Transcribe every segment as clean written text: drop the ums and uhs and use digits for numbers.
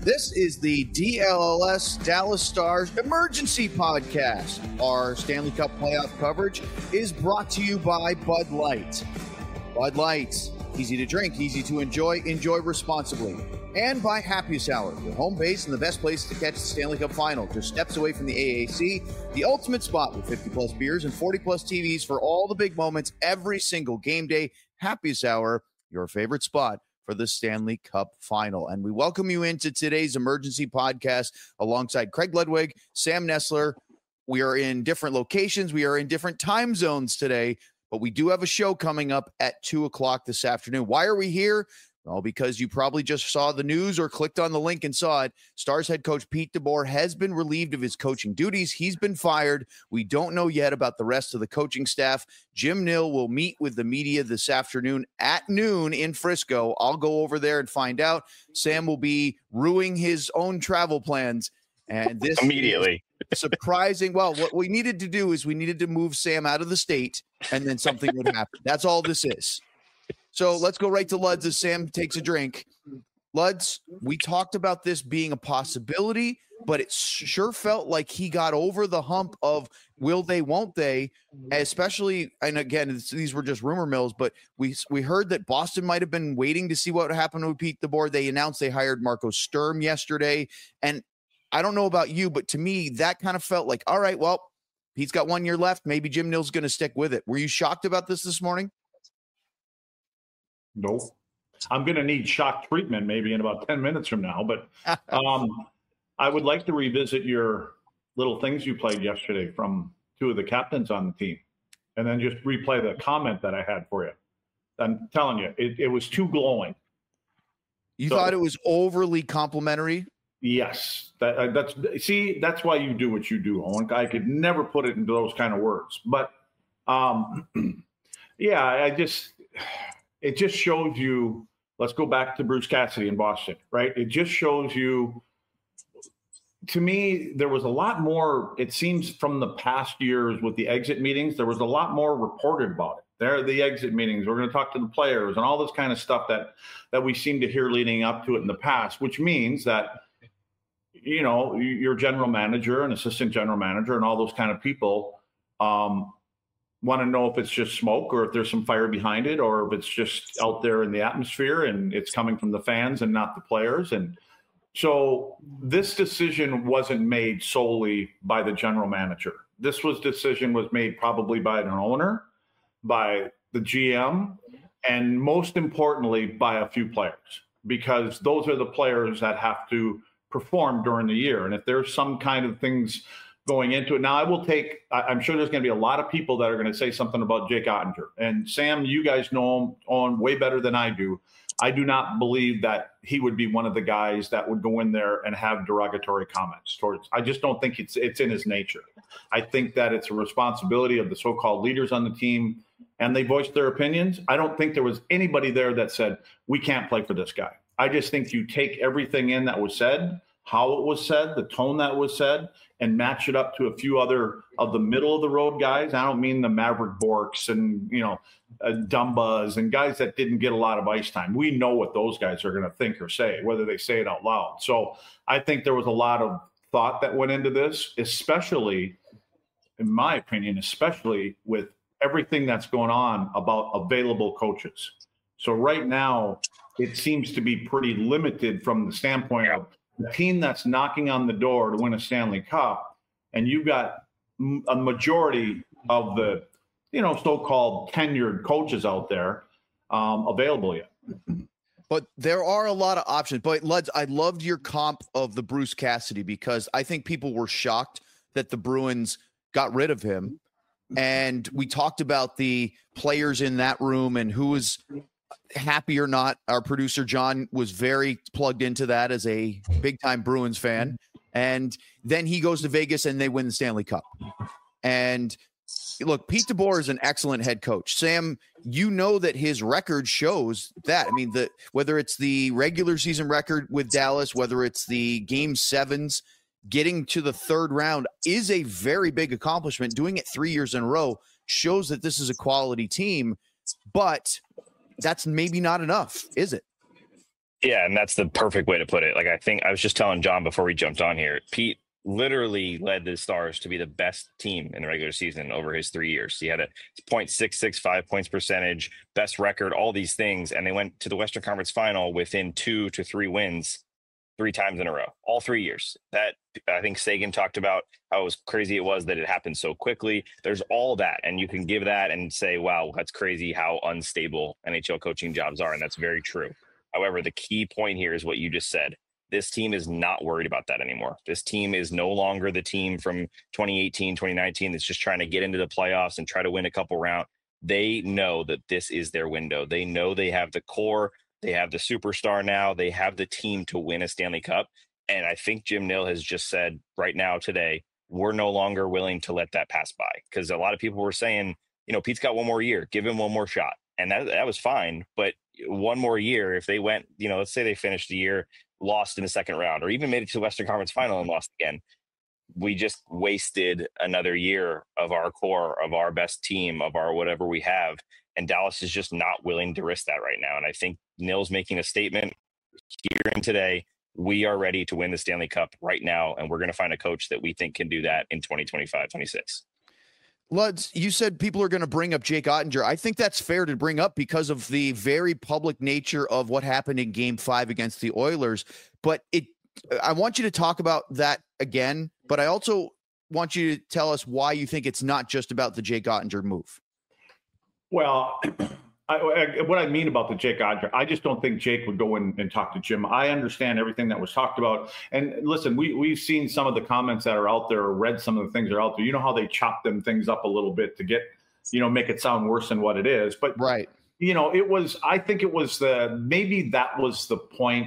This is the DLLS Dallas Stars Emergency Podcast. Our Stanley Cup playoff coverage is brought to you by Bud Light. Bud Light, easy to drink, easy to enjoy responsibly. And by Happiest Hour, your home base and the best place to catch the Stanley Cup Final. Just steps away from the AAC, the ultimate spot with 50-plus beers and 40-plus TVs for all the big moments every single game day. Happiest Hour, your favorite spot for the Stanley Cup Final. And we welcome you into today's emergency podcast alongside Craig Ludwig, Sam Nessler. We are in different locations. We are in different time zones today, but we do have a show coming up at 2 o'clock this afternoon. Why are we here? Well, because you probably just saw the news or clicked on the link and saw it. Stars head coach Pete DeBoer has been relieved of his coaching duties. He's been fired. We don't know yet about the rest of the coaching staff. Jim Nill will meet with the media this afternoon at noon in Frisco. I'll go over there and find out. Sam will be ruining his own travel plans. And this immediately surprising. Well, what we needed to do is we needed to move Sam out of the state, and then something would happen. That's all this is. So let's go right to Luds as Sam takes a drink. Luds, we talked about this being a possibility, but it sure felt like he got over the hump of will they, won't they, especially, and again, these were just rumor mills, but we heard that Boston might have been waiting to see what happened with Pete DeBoer. They announced they hired Marco Sturm yesterday, and I don't know about you, but to me, that kind of felt like, all right, well, Pete's got 1 year left. Maybe Jim Nill's going to stick with it. Were you shocked about this morning? No, I'm going to need shock treatment maybe in about 10 minutes from now. But I would like to revisit your little things you played yesterday from two of the captains on the team, and then just replay the comment that I had for you. I'm telling you, it was too glowing. You thought it was overly complimentary? Yes. That's why you do what you do, Owen. I could never put it into those kind of words. But, yeah, it just shows you, let's go back to Bruce Cassidy in Boston, right? It just shows you, to me, there was a lot more, it seems from the past years with the exit meetings, there was a lot more reported about it. There are the exit meetings. We're going to talk to the players and all this kind of stuff that we seem to hear leading up to it in the past, which means that, you know, your general manager and assistant general manager and all those kind of people, want to know if it's just smoke or if there's some fire behind it or if it's just out there in the atmosphere and it's coming from the fans and not the players. And so this decision wasn't made solely by the general manager. This decision was made probably by an owner, by the GM, and most importantly, by a few players, because those are the players that have to perform during the year. And if there's some kind of things going into it. Now, I'm sure there's going to be a lot of people that are going to say something about Jake Ottinger. And Sam, you guys know him on way better than I do. I do not believe that he would be one of the guys that would go in there and have derogatory comments towards. I just don't think it's in his nature. I think that it's a responsibility of the so-called leaders on the team, and they voiced their opinions. I don't think there was anybody there that said, we can't play for this guy. I just think you take everything in that was said, how it was said, the tone that was said, and match it up to a few other of the middle of the road guys. I don't mean the Maverick Borks and, Dumbas and guys that didn't get a lot of ice time. We know what those guys are going to think or say, whether they say it out loud. So I think there was a lot of thought that went into this, especially, in my opinion, especially with everything that's going on about available coaches. So right now, it seems to be pretty limited from the standpoint of the team that's knocking on the door to win a Stanley Cup, and you've got a majority of the, so-called tenured coaches out there available yet. But there are a lot of options. But Luds, I loved your comp of the Bruce Cassidy because I think people were shocked that the Bruins got rid of him. And we talked about the players in that room and who was happy or not. Our producer, John, was very plugged into that as a big-time Bruins fan. And then he goes to Vegas and they win the Stanley Cup. And look, Pete DeBoer is an excellent head coach. Sam, you know that his record shows that. I mean, whether it's the regular season record with Dallas, whether it's the game sevens, getting to the third round is a very big accomplishment. Doing it 3 years in a row shows that this is a quality team, but that's maybe not enough, is it? Yeah, and that's the perfect way to put it. Like, I think I was just telling John before we jumped on here, Pete literally led the Stars to be the best team in the regular season over his 3 years. He had a .665 points percentage, best record, all these things, and they went to the Western Conference Final within 2 to 3 wins 3 times in a row, all 3 years. That, I think Sagan talked about how it was crazy it was that it happened so quickly. There's all that, and you can give that and say, wow, that's crazy how unstable NHL coaching jobs are, and that's very true. However, the key point here is what you just said. This team is not worried about that anymore. This team is no longer the team from 2018, 2019 that's just trying to get into the playoffs and try to win a couple rounds. They know that this is their window. They know they have the core. They have the superstar now. They have the team to win a Stanley Cup. And I think Jim Nill has just said right now today, we're no longer willing to let that pass by. Because a lot of people were saying, Pete's got one more year. Give him one more shot. And that was fine. But one more year, if they went, let's say they finished the year, lost in the second round, or even made it to the Western Conference Final and lost again, we just wasted another year of our core, of our best team, of our whatever we have. And Dallas is just not willing to risk that right now. And I think Nill's making a statement here and today. We are ready to win the Stanley Cup right now, and we're going to find a coach that we think can do that in 2025-26. Luds, you said people are going to bring up Jake Oettinger. I think that's fair to bring up because of the very public nature of what happened in Game 5 against the Oilers. But I want you to talk about that again, but I also want you to tell us why you think it's not just about the Jake Oettinger move. Well, what I mean about the Jake Oettinger, I just don't think Jake would go in and talk to Jim. I understand everything that was talked about. And listen, we've seen some of the comments that are out there, or read some of the things that are out there. You know how they chop them things up a little bit to get, make it sound worse than what it is. But, right. I think it was maybe that was the point,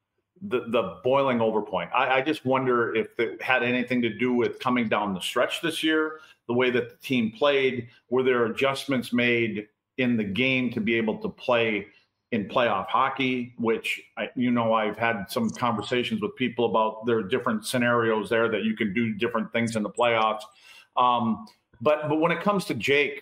the boiling over point. I just wonder if it had anything to do with coming down the stretch this year, the way that the team played. Were there adjustments made in the game to be able to play in playoff hockey, which I've had some conversations with people about. There are different scenarios there that you can do different things in the playoffs. But when it comes to Jake,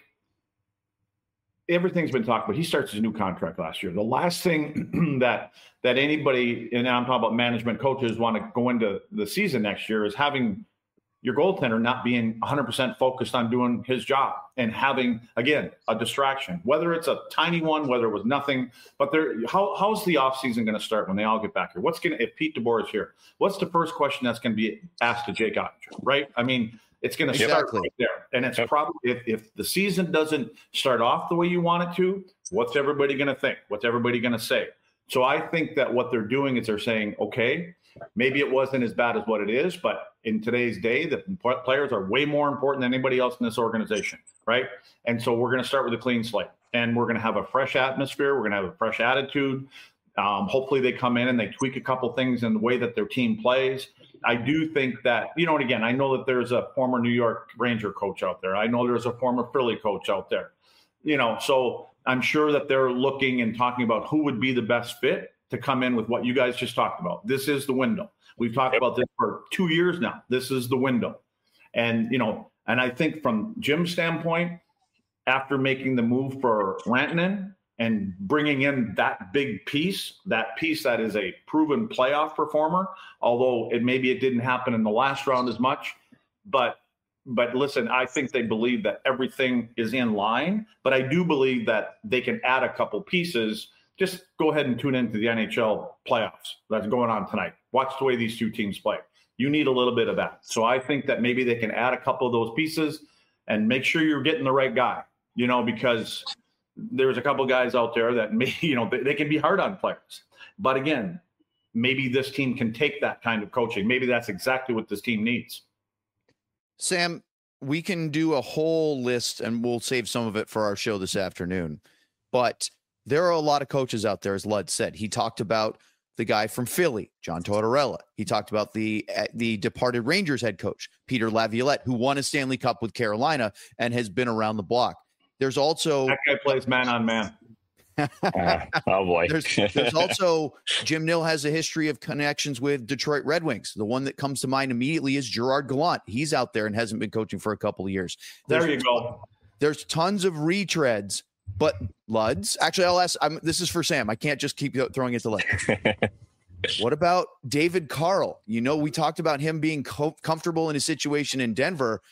everything's been talked about. He starts his new contract last year. The last thing that anybody, and I'm talking about management, coaches, want to go into the season next year is having your goaltender not being 100% focused on doing his job and having, again, a distraction, whether it's a tiny one, whether it was nothing. But how's the offseason going to start when they all get back here? If Pete DeBoer is here, what's the first question that's going to be asked to Jake Oettinger, right? I mean, it's going to start right there. And it's probably, if the season doesn't start off the way you want it to, what's everybody going to think? What's everybody going to say? So I think that what they're doing is they're saying, okay, maybe it wasn't as bad as what it is, but in today's day, the players are way more important than anybody else in this organization, right? And so we're going to start with a clean slate, and we're going to have a fresh atmosphere. We're going to have a fresh attitude. Hopefully they come in and they tweak a couple things in the way that their team plays. I do think that, and again, I know that there's a former New York Ranger coach out there. I know there's a former Philly coach out there, so I'm sure that they're looking and talking about who would be the best fit to come in with what you guys just talked about. This is the window. We've talked about this for 2 years now. This is the window. And, and I think from Jim's standpoint, after making the move for Rantanen and bringing in that big piece that is a proven playoff performer, although maybe it didn't happen in the last round as much, but listen, I think they believe that everything is in line, but I do believe that they can add a couple pieces. Just go ahead and tune into the NHL playoffs that's going on tonight. Watch the way these two teams play. You need a little bit of that. So I think that maybe they can add a couple of those pieces and make sure you're getting the right guy, because there's a couple of guys out there that may, they can be hard on players. But again, maybe this team can take that kind of coaching. Maybe that's exactly what this team needs. Sam, we can do a whole list, and we'll save some of it for our show this afternoon. But there are a lot of coaches out there, as Lud said. He talked about the guy from Philly, John Tortorella. He talked about the departed Rangers head coach, Peter Laviolette, who won a Stanley Cup with Carolina and has been around the block. There's also that guy plays man on man. Oh boy. There's also Jim Nill has a history of connections with Detroit Red Wings. The one that comes to mind immediately is Gerard Gallant. He's out there and hasn't been coaching for a couple of years. There you go. There's tons of retreads, But Luds, actually, I'll ask. This is for Sam. I can't just keep throwing it to Luds. What about David Carl? We talked about him being comfortable in his situation in Denver,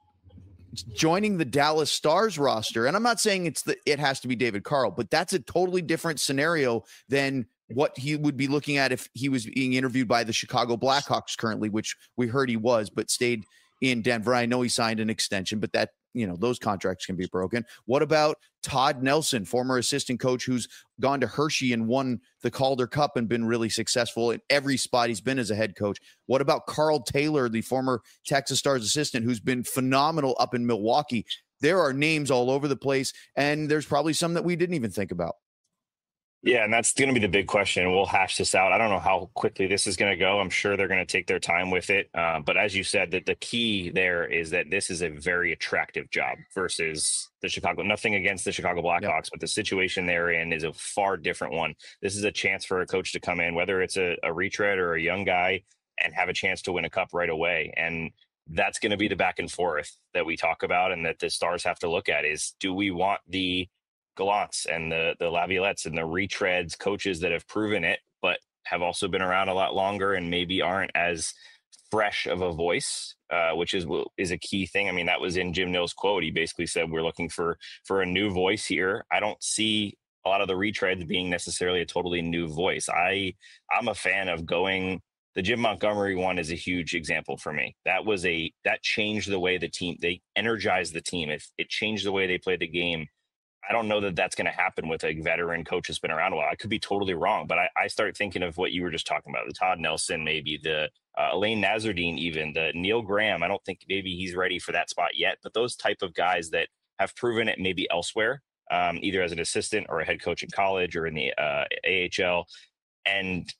joining the Dallas Stars roster. And I'm not saying it has to be David Carl, but that's a totally different scenario than what he would be looking at if he was being interviewed by the Chicago Blackhawks currently, which we heard he was, but stayed in Denver. I know he signed an extension, but that, those contracts can be broken. What about Todd Nelson, former assistant coach who's gone to Hershey and won the Calder Cup and been really successful in every spot he's been as a head coach? What about Carl Taylor, the former Texas Stars assistant who's been phenomenal up in Milwaukee? There are names all over the place, and there's probably some that we didn't even think about. Yeah, and that's going to be the big question. We'll hash this out. I don't know how quickly this is going to go. I'm sure they're going to take their time with it. But as you said, that the key there is that this is a very attractive job versus the Chicago. Nothing against the Chicago Blackhawks, but the situation they're in is a far different one. This is a chance for a coach to come in, whether it's a retread or a young guy, and have a chance to win a cup right away. And that's going to be the back and forth that we talk about, and that the Stars have to look at is, do we want the Gallants and the Laviolettes and the retreads, coaches that have proven it, but have also been around a lot longer and maybe aren't as fresh of a voice, which is a key thing. I mean, that was in Jim Nill's quote. He basically said, we're looking for a new voice here. I don't see a lot of the retreads being necessarily a totally new voice. I'm a fan of going. The Jim Montgomery one is a huge example for me. That changed the way they energized the team. It changed the way they played the game. I don't know that that's going to happen with a veteran coach that's been around a while. I could be totally wrong, but I start thinking of what you were just talking about, the Todd Nelson, maybe the Elaine Nazardine, even the Neil Graham. I don't think maybe he's ready for that spot yet, but those type of guys that have proven it maybe elsewhere, either as an assistant or a head coach in college or in the AHL. And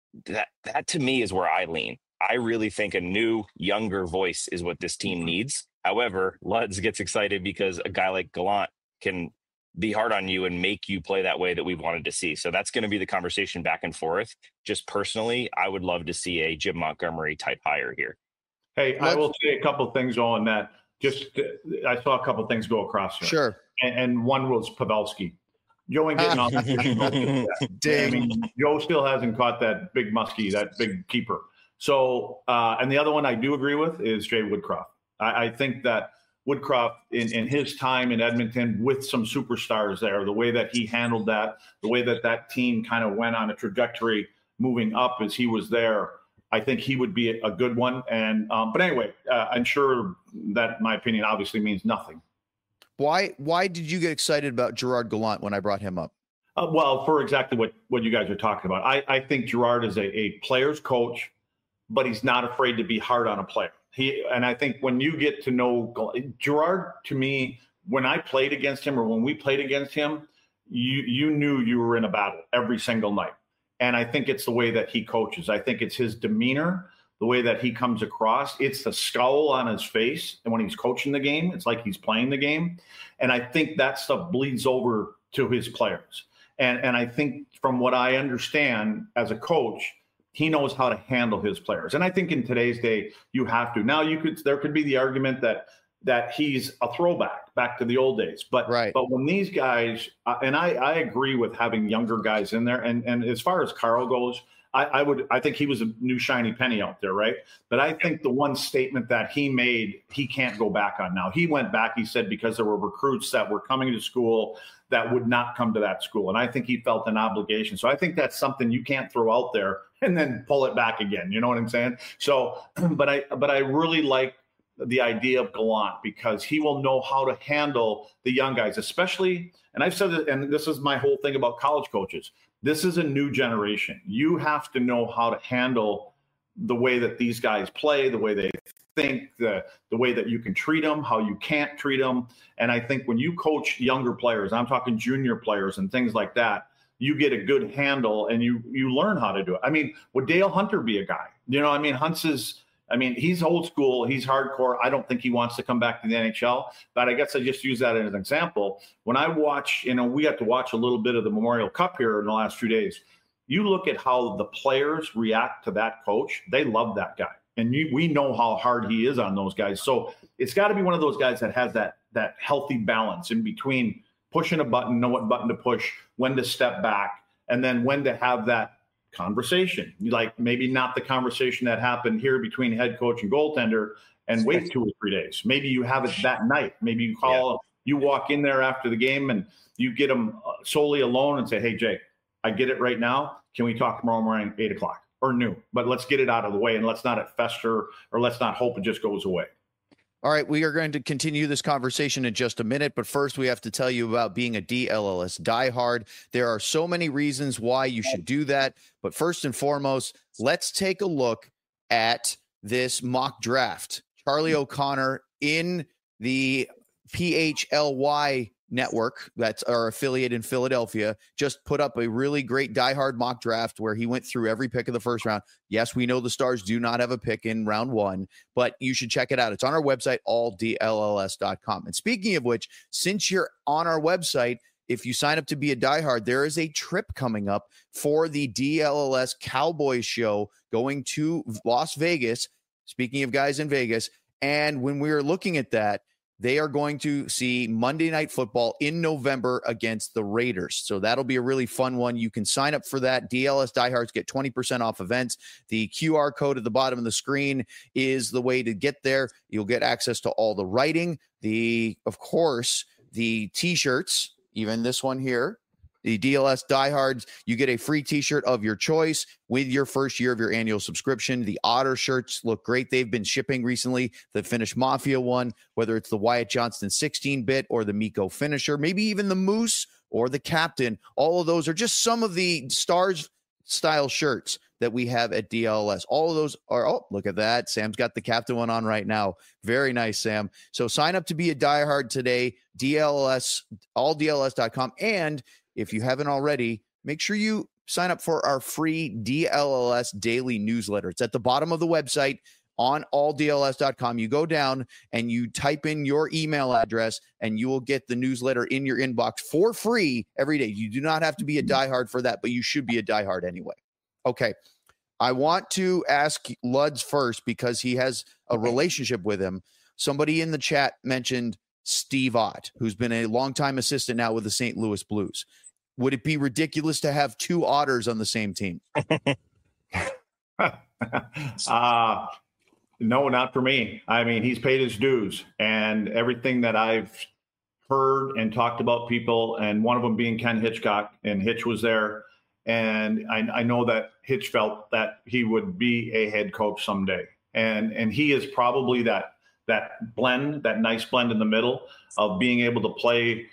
that to me is where I lean. I really think a new, younger voice is what this team needs. However, Luds gets excited because a guy like Gallant can be hard on you and make you play that way that we wanted to see. So that's going to be the conversation back and forth. Just personally, I would love to see a Jim Montgomery type hire here. Hey, I will say a couple of things on that. I saw a couple of things go across here. Sure. And one was Pavelski. Joe ain't getting off. I mean, Joe still hasn't caught that big muskie, that big keeper. So, and the other one I do agree with is Jay Woodcroft. I think that Woodcroft in his time in Edmonton with some superstars there, the way that he handled that, the way that team kind of went on a trajectory moving up as he was there, I think he would be a good one. And but anyway, I'm sure that my opinion obviously means nothing. Why did you get excited about Gerard Gallant when I brought him up? Well, for exactly what you guys are talking about. I think Gerard is a player's coach, but he's not afraid to be hard on a player. And I think when you get to know Gerard, to me, when I played against him or when we played against him, you knew you were in a battle every single night. And I think it's the way that he coaches. I think it's his demeanor, the way that he comes across. It's the scowl on his face. And when he's coaching the game, it's like he's playing the game. And I think that stuff bleeds over to his players. And I think from what I understand as a coach, he knows how to handle his players. And I think in today's day, you have to. Now, there could be the argument that he's a throwback back to the old days. But right. But when these guys, and I agree with having younger guys in there. And as far as Carl goes, I think he was a new shiny penny out there, right? But I think the one statement that he made, he can't go back on now. He went back, he said, because there were recruits that were coming to school that would not come to that school. And I think he felt an obligation. So I think that's something you can't throw out there and then pull it back again. You know what I'm saying? So, but I really like the idea of Gallant because he will know how to handle the young guys, especially, and I've said it, and this is my whole thing about college coaches. This is a new generation. You have to know how to handle the way that these guys play, the way they think, the way that you can treat them, how you can't treat them. And I think when you coach younger players, I'm talking junior players and things like that, you get a good handle and you learn how to do it. I mean, would Dale Hunter be a guy? You know, I mean, he's old school. He's hardcore. I don't think he wants to come back to the NHL, but I guess I just use that as an example. When I watch, we got to watch a little bit of the Memorial Cup here in the last few days. You look at how the players react to that coach. They love that guy. And we know how hard he is on those guys. So it's got to be one of those guys that has that healthy balance in between pushing a button, know what button to push, when to step back, and then when to have that conversation. Like maybe not the conversation that happened here between head coach and goaltender and wait 2 or 3 days. Maybe you have it that night. Maybe you call, you walk in there after the game and you get them solely alone and say, hey, Jake, I get it right now. Can we talk tomorrow morning, 8 o'clock or noon? But let's get it out of the way and let's not fester, or let's not hope it just goes away. All right, we are going to continue this conversation in just a minute, but first we have to tell you about being a DLLS diehard. There are so many reasons why you should do that, but first and foremost, let's take a look at this mock draft. Charlie O'Connor in the PHLY network, that's our affiliate in Philadelphia, just put up a really great diehard mock draft where he went through every pick of the first round. Yes, we know the Stars do not have a pick in round 1, but you should check it out. It's on our website, alldlls.com. And speaking of which, since you're on our website, if you sign up to be a diehard, there is a trip coming up for the DLLS Cowboys show going to Las Vegas. Speaking of guys in Vegas, and when we were looking at that, they are going to see Monday Night Football in November against the Raiders. So that'll be a really fun one. You can sign up for that. DLS Diehards get 20% off events. The QR code at the bottom of the screen is the way to get there. You'll get access to all the writing. Of course, the T-shirts, even this one here. The DLS Diehards, you get a free T-shirt of your choice with your first year of your annual subscription. The Otter shirts look great. They've been shipping recently. The Finnish Mafia one, whether it's the Wyatt Johnston 16-bit or the Mikko Finisher, maybe even the Moose or the Captain. All of those are just some of the Stars-style shirts that we have at DLS. All of those are, oh, look at that. Sam's got the Captain one on right now. Very nice, Sam. So sign up to be a diehard today, DLS, alldls.com. And if you haven't already, make sure you sign up for our free DLLS daily newsletter. It's at the bottom of the website on alldls.com. You go down and you type in your email address and you will get the newsletter in your inbox for free every day. You do not have to be a diehard for that, but you should be a diehard anyway. Okay. I want to ask Luds first because he has a relationship with him. Somebody in the chat mentioned Steve Ott, who's been a longtime assistant now with the St. Louis Blues. Would it be ridiculous to have 2 Otters on the same team? No, not for me. I mean, he's paid his dues, and everything that I've heard and talked about people, and one of them being Ken Hitchcock, and Hitch was there. And I know that Hitch felt that he would be a head coach someday. And he is probably that blend, that nice blend in the middle of being able to play,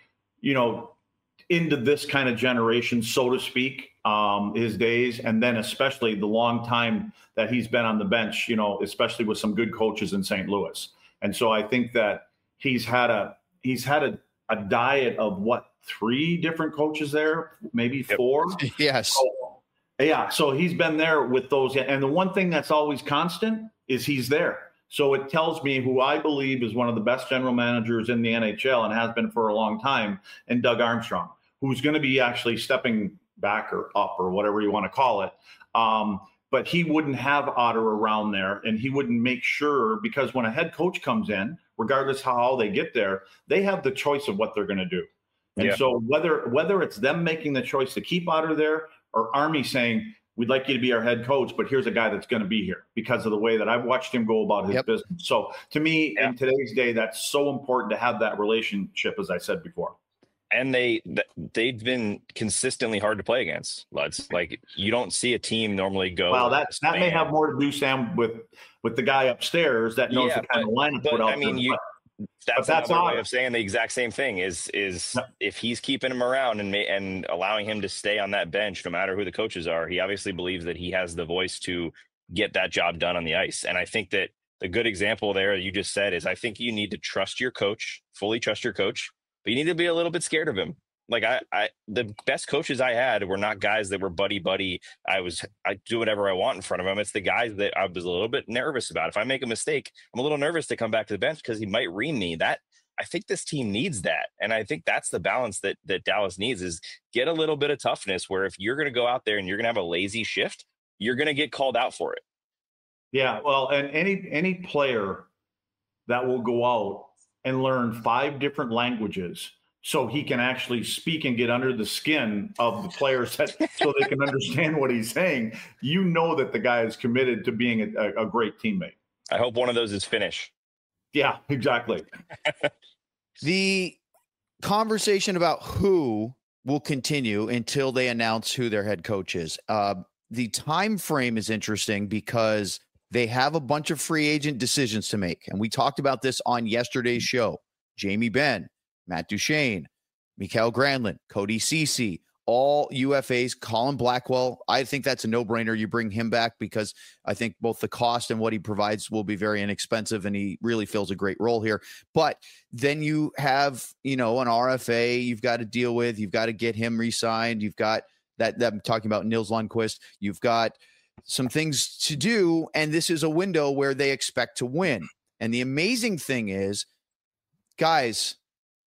into this kind of generation, so to speak, his days, and then especially the long time that he's been on the bench, especially with some good coaches in St. Louis. And so I think that he's had a diet of 3 different coaches there, maybe 4. Yes. So he's been there with those. And the one thing that's always constant is he's there. So it tells me who I believe is one of the best general managers in the NHL and has been for a long time, and Doug Armstrong, who's going to be actually stepping back or up or whatever you want to call it. But he wouldn't have Otter around there, and he wouldn't make sure, because when a head coach comes in, regardless how they get there, they have the choice of what they're going to do. And so whether it's them making the choice to keep Otter there or Army saying, we'd like you to be our head coach, but here's a guy that's going to be here because of the way that I've watched him go about his business. So to me, in today's day, that's so important to have that relationship, as I said before. And they've been consistently hard to play against, Luds. Like, you don't see a team normally go. Well, that may have more to do, Sam, with the guy upstairs that knows the kind of lineup put out. I mean, that's another way of saying the exact same thing is if he's keeping him around and allowing him to stay on that bench, no matter who the coaches are, he obviously believes that he has the voice to get that job done on the ice. And I think that the good example there you just said is, I think you need to trust your coach, fully trust your coach, but you need to be a little bit scared of him. Like the best coaches I had were not guys that were buddy. I do whatever I want in front of him. It's the guys that I was a little bit nervous about. If I make a mistake, I'm a little nervous to come back to the bench because he might ream me. That I think this team needs that. And I think that's the balance that Dallas needs, is get a little bit of toughness, where if you're going to go out there and you're going to have a lazy shift, you're going to get called out for it. Yeah. Well, and any player that will go out and learn 5 different languages so he can actually speak and get under the skin of the players so they can understand what he's saying. You know that the guy is committed to being a great teammate. I hope one of those is Finnish. Yeah, exactly. The conversation about who will continue until they announce who their head coach is. The time frame is interesting because they have a bunch of free agent decisions to make. And we talked about this on yesterday's show. Jamie Benn, Matt Duchene, Mikael Granlund, Cody Ceci, all UFAs, Colin Blackwell. I think that's a no-brainer. You bring him back because I think both the cost and what he provides will be very inexpensive, and he really fills a great role here. But then you have, an RFA you've got to deal with. You've got to get him re-signed. You've got that I'm talking about Nils Lundqvist. You've got some things to do, and this is a window where they expect to win. And the amazing thing is, guys,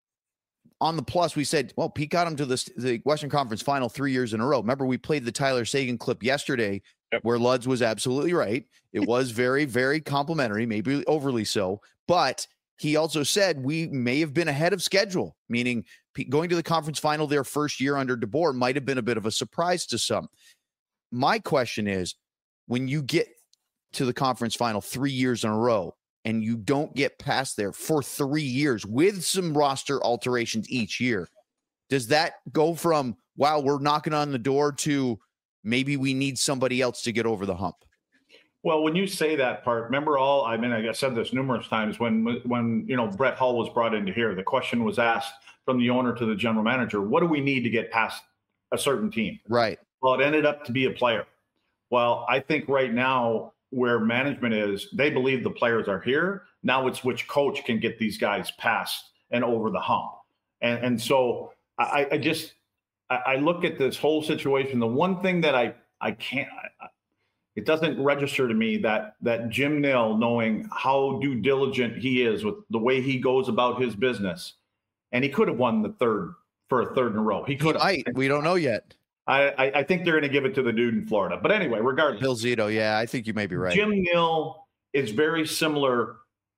on the plus, we said, well, Pete got him to the Western Conference Final 3 years in a row. Remember, we played the Tyler Seguin clip yesterday where Luds was absolutely right. It was very, very complimentary, maybe overly so. But he also said we may have been ahead of schedule, meaning going to the conference final their first year under DeBoer might have been a bit of a surprise to some. My question is, when you get to the conference final 3 years in a row, and you don't get past there for 3 years with some roster alterations each year, does that go from, wow, we're knocking on the door to maybe we need somebody else to get over the hump? Well, when you say that part, remember I said this numerous times when Brett Hull was brought into here, the question was asked from the owner to the general manager, what do we need to get past a certain team? Right. Well, it ended up to be a player. Well, I think right now, where management is, they believe the players are here. Now it's which coach can get these guys past and over the hump. And so I look at this whole situation. The one thing that I can't, it doesn't register to me that Jim Nill, knowing how due diligent he is with the way he goes about his business, and he could have won the third in a row. He could have. We don't know yet. I think they're going to give it to the dude in Florida. But anyway, regardless. Bill Zito, yeah, I think you may be right. Jim Nill is very similar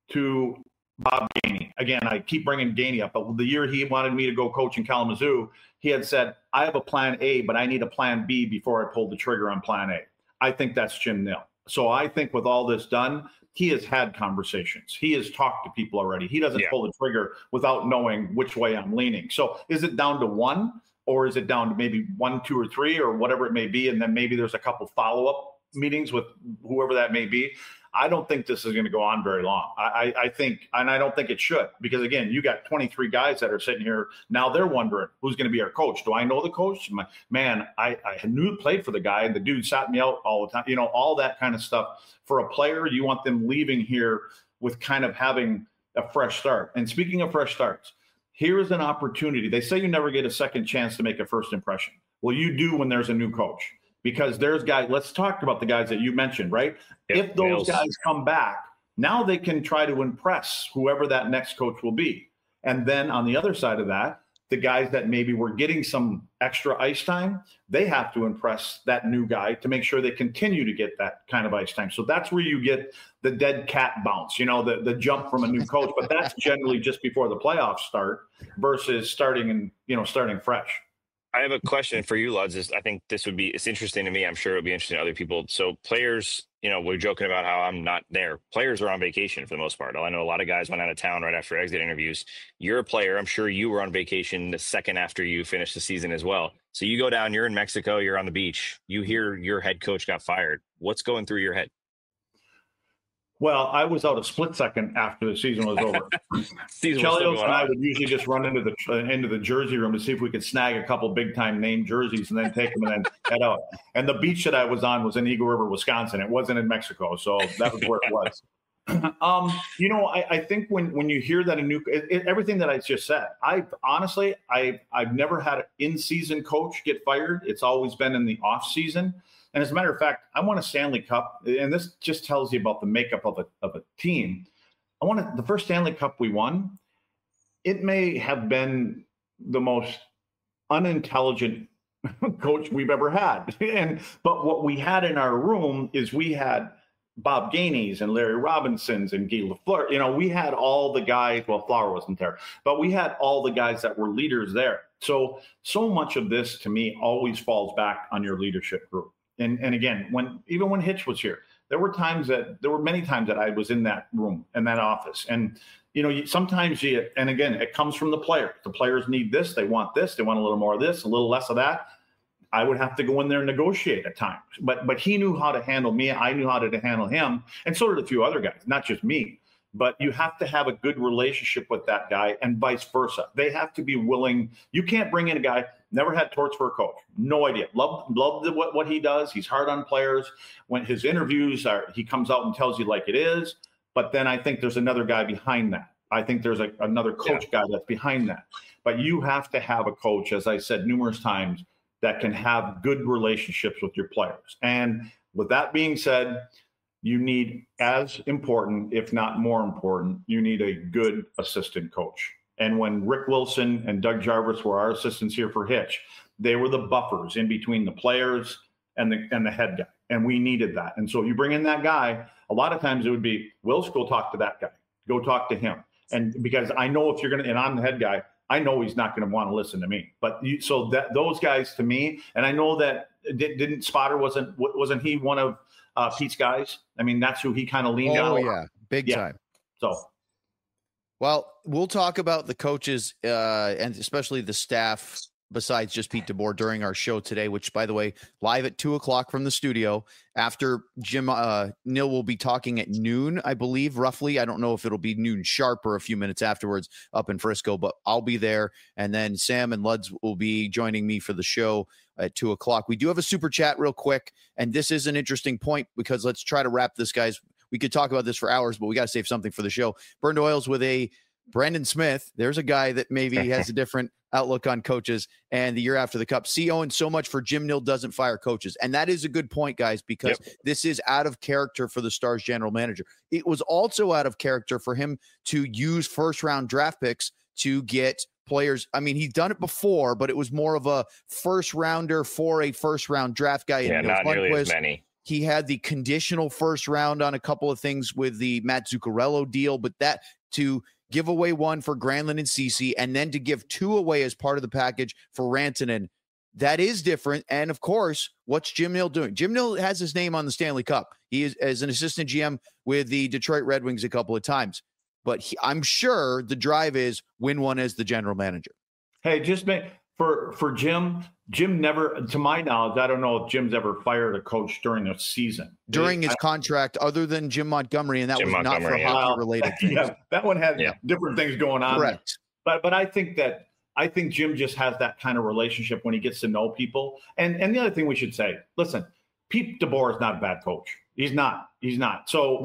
to Bob Gainey. Again, I keep bringing Gainey up, but the year he wanted me to go coach in Kalamazoo, he had said, I have a plan A, but I need a plan B before I pull the trigger on plan A. I think that's Jim Nill. So I think with all this done, he has had conversations. He has talked to people already. He doesn't pull the trigger without knowing which way I'm leaning. So is it down to one? Or is it down to maybe 1, 2, or 3, or whatever it may be? And then maybe there's a couple follow-up meetings with whoever that may be. I don't think this is going to go on very long. I think, and I don't think it should, because again, you got 23 guys that are sitting here. Now they're wondering who's going to be our coach. Do I know the coach? Man, I knew played for the guy, and the dude sat me out all the time. All that kind of stuff. For a player, you want them leaving here with kind of having a fresh start. And speaking of fresh starts, here is an opportunity. They say you never get a second chance to make a first impression. Well, you do when there's a new coach, because there's guys. Let's talk about the guys that you mentioned, right? Yep, if those guys come back, now they can try to impress whoever that next coach will be. And then on the other side of that, the guys that maybe were getting some extra ice time, they have to impress that new guy to make sure they continue to get that kind of ice time. So that's where you get the dead cat bounce, the jump from a new coach. But that's generally just before the playoffs start versus starting fresh. I have a question for you, Luds. I think it's interesting to me. I'm sure it'll be interesting to other people. So players, we're joking about how I'm not there. Players are on vacation for the most part. I know a lot of guys went out of town right after exit interviews. You're a player. I'm sure you were on vacation the second after you finished the season as well. So you go down, you're in Mexico, you're on the beach. You hear your head coach got fired. What's going through your head? Well, I was out a split second after the season was over. Chelios and I would usually just run into the jersey room to see if we could snag a couple big time name jerseys and then take them and then head out. And the beach that I was on was in Eagle River, Wisconsin. It wasn't in Mexico, so that was where it was. I think when you hear that everything that I just said, I've never had an in-season coach get fired. It's always been in the off season. And as a matter of fact, I won a Stanley Cup, and this just tells you about the makeup of a team. The first Stanley Cup we won. It may have been the most unintelligent coach we've ever had. But what we had in our room is we had Bob Gainey's and Larry Robinson's and Guy Lafleur. You know, we had all the guys. Well, Flower wasn't there, but we had all the guys that were leaders there. So much of this to me always falls back on your leadership group. And again, when Hitch was here, there were many times that I was in that room, in that office. And, you know, sometimes and again, it comes from the players. The players need this. They want this. They want a little more of this, a little less of that. I would have to go in there and negotiate at times. But he knew how to handle me. I knew how to handle him. And so did a few other guys, not just me. But you have to have a good relationship with that guy and vice versa. They have to be willing. You can't bring in a guy, never had torts for a coach. No idea. Love what he does. He's hard on players. When his interviews he comes out and tells you like it is. But then I think there's another guy behind that. I think there's another coach guy that's behind that. But you have to have a coach, as I said numerous times, that can have good relationships with your players. And with that being said, you need, as important, if not more important, you need a good assistant coach. And when Rick Wilson and Doug Jarvis were our assistants here for Hitch, they were the buffers in between the players and the head guy. And we needed that. And so if you bring in that guy, a lot of times it would be, Wills, go talk to that guy. Go talk to him. And because I know if you're going to, and I'm the head guy, I know he's not going to want to listen to me. But those guys to me, and I know that didn't Spotter wasn't he one of Pete's guys? I mean, that's who he kind of leaned on. Oh yeah, big time. So, well, we'll talk about the coaches and especially the staff besides just Pete DeBoer during our show today, which, by the way, live at 2:00 from the studio. After Jim Nill will be talking at noon, I believe, roughly. I don't know if it'll be noon sharp or a few minutes afterwards up in Frisco, but I'll be there. And then Sam and Luds will be joining me for the show at 2:00. We do have a super chat real quick, and this is an interesting point because let's try to wrap this, guys. We could talk about this for hours, but we got to save something for the show. Burned Oils with a Brandon Smith. There's a guy that maybe has a different outlook on coaches and the year after the cup. See, Owen, so much for Jim Nill doesn't fire coaches. And that is a good point, guys, because this is out of character for the Stars general manager. It was also out of character for him to use first-round draft picks to get players. I mean, he's done it before, but it was more of a first-rounder for a first-round draft guy. Yeah, not nearly as many. He had the conditional first round on a couple of things with the Matt Zuccarello deal, but that to give away one for Granlund and Ceci, and then to give two away as part of the package for Rantanen, that is different. And of course, what's Jim Nill doing? Jim Nill has his name on the Stanley Cup. He is as an assistant GM with the Detroit Red Wings a couple of times, but I'm sure the drive is win one as the general manager. Hey, for Jim never, to my knowledge, I don't know if Jim's ever fired a coach during the season. During his contract, other than Jim Montgomery, and that was not for hockey-related things. Yeah, that one had different things going on. Correct. But I think Jim just has that kind of relationship when he gets to know people. And the other thing we should say, listen, Pete DeBoer is not a bad coach. He's not. So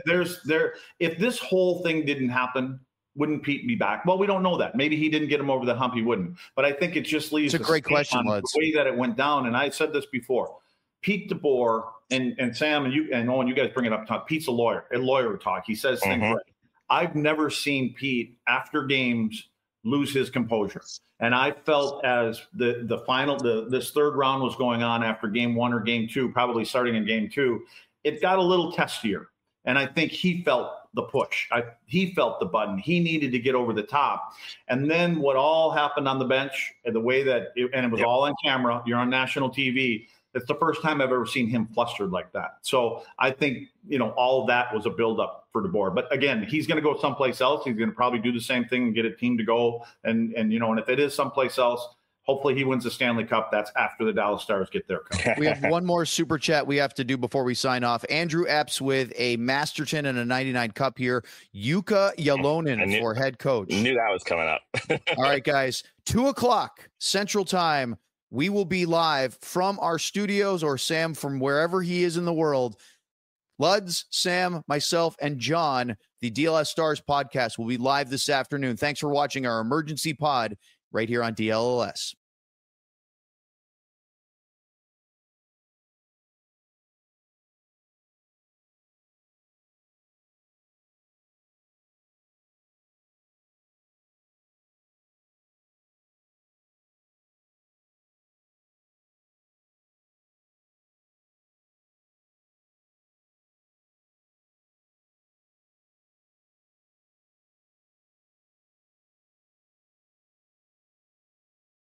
if this whole thing didn't happen, wouldn't Pete be back? Well, we don't know that. Maybe he didn't get him over the hump. He wouldn't. But I think it just leaves a great question, on the way that it went down. And I said this before. Pete DeBoer and Sam and Owen, you guys bring it up. Pete's a lawyer talk. He says things right. I've never seen Pete after games lose his composure. And I felt as the final, this third round was going on after game one or game two, probably starting in game two, it got a little testier. And I think he felt the push. He felt the button. He needed to get over the top. And then what all happened on the bench and the way that it was all on camera, you're on national TV. It's the first time I've ever seen him flustered like that. So I think, all of that was a buildup for DeBoer. But again, he's going to go someplace else. He's going to probably do the same thing and get a team to go. And if it is someplace else, hopefully he wins the Stanley Cup. That's after the Dallas Stars get their cup. We have one more super chat we have to do before we sign off. Andrew Epps with a Masterton and a 99 cup here. Jukka Jalonen for head coach. Knew that was coming up. All right, guys. 2:00 Central Time. We will be live from our studios, or Sam from wherever he is in the world. Luds, Sam, myself, and John, the DLS Stars podcast, will be live this afternoon. Thanks for watching our emergency pod right here on DLS.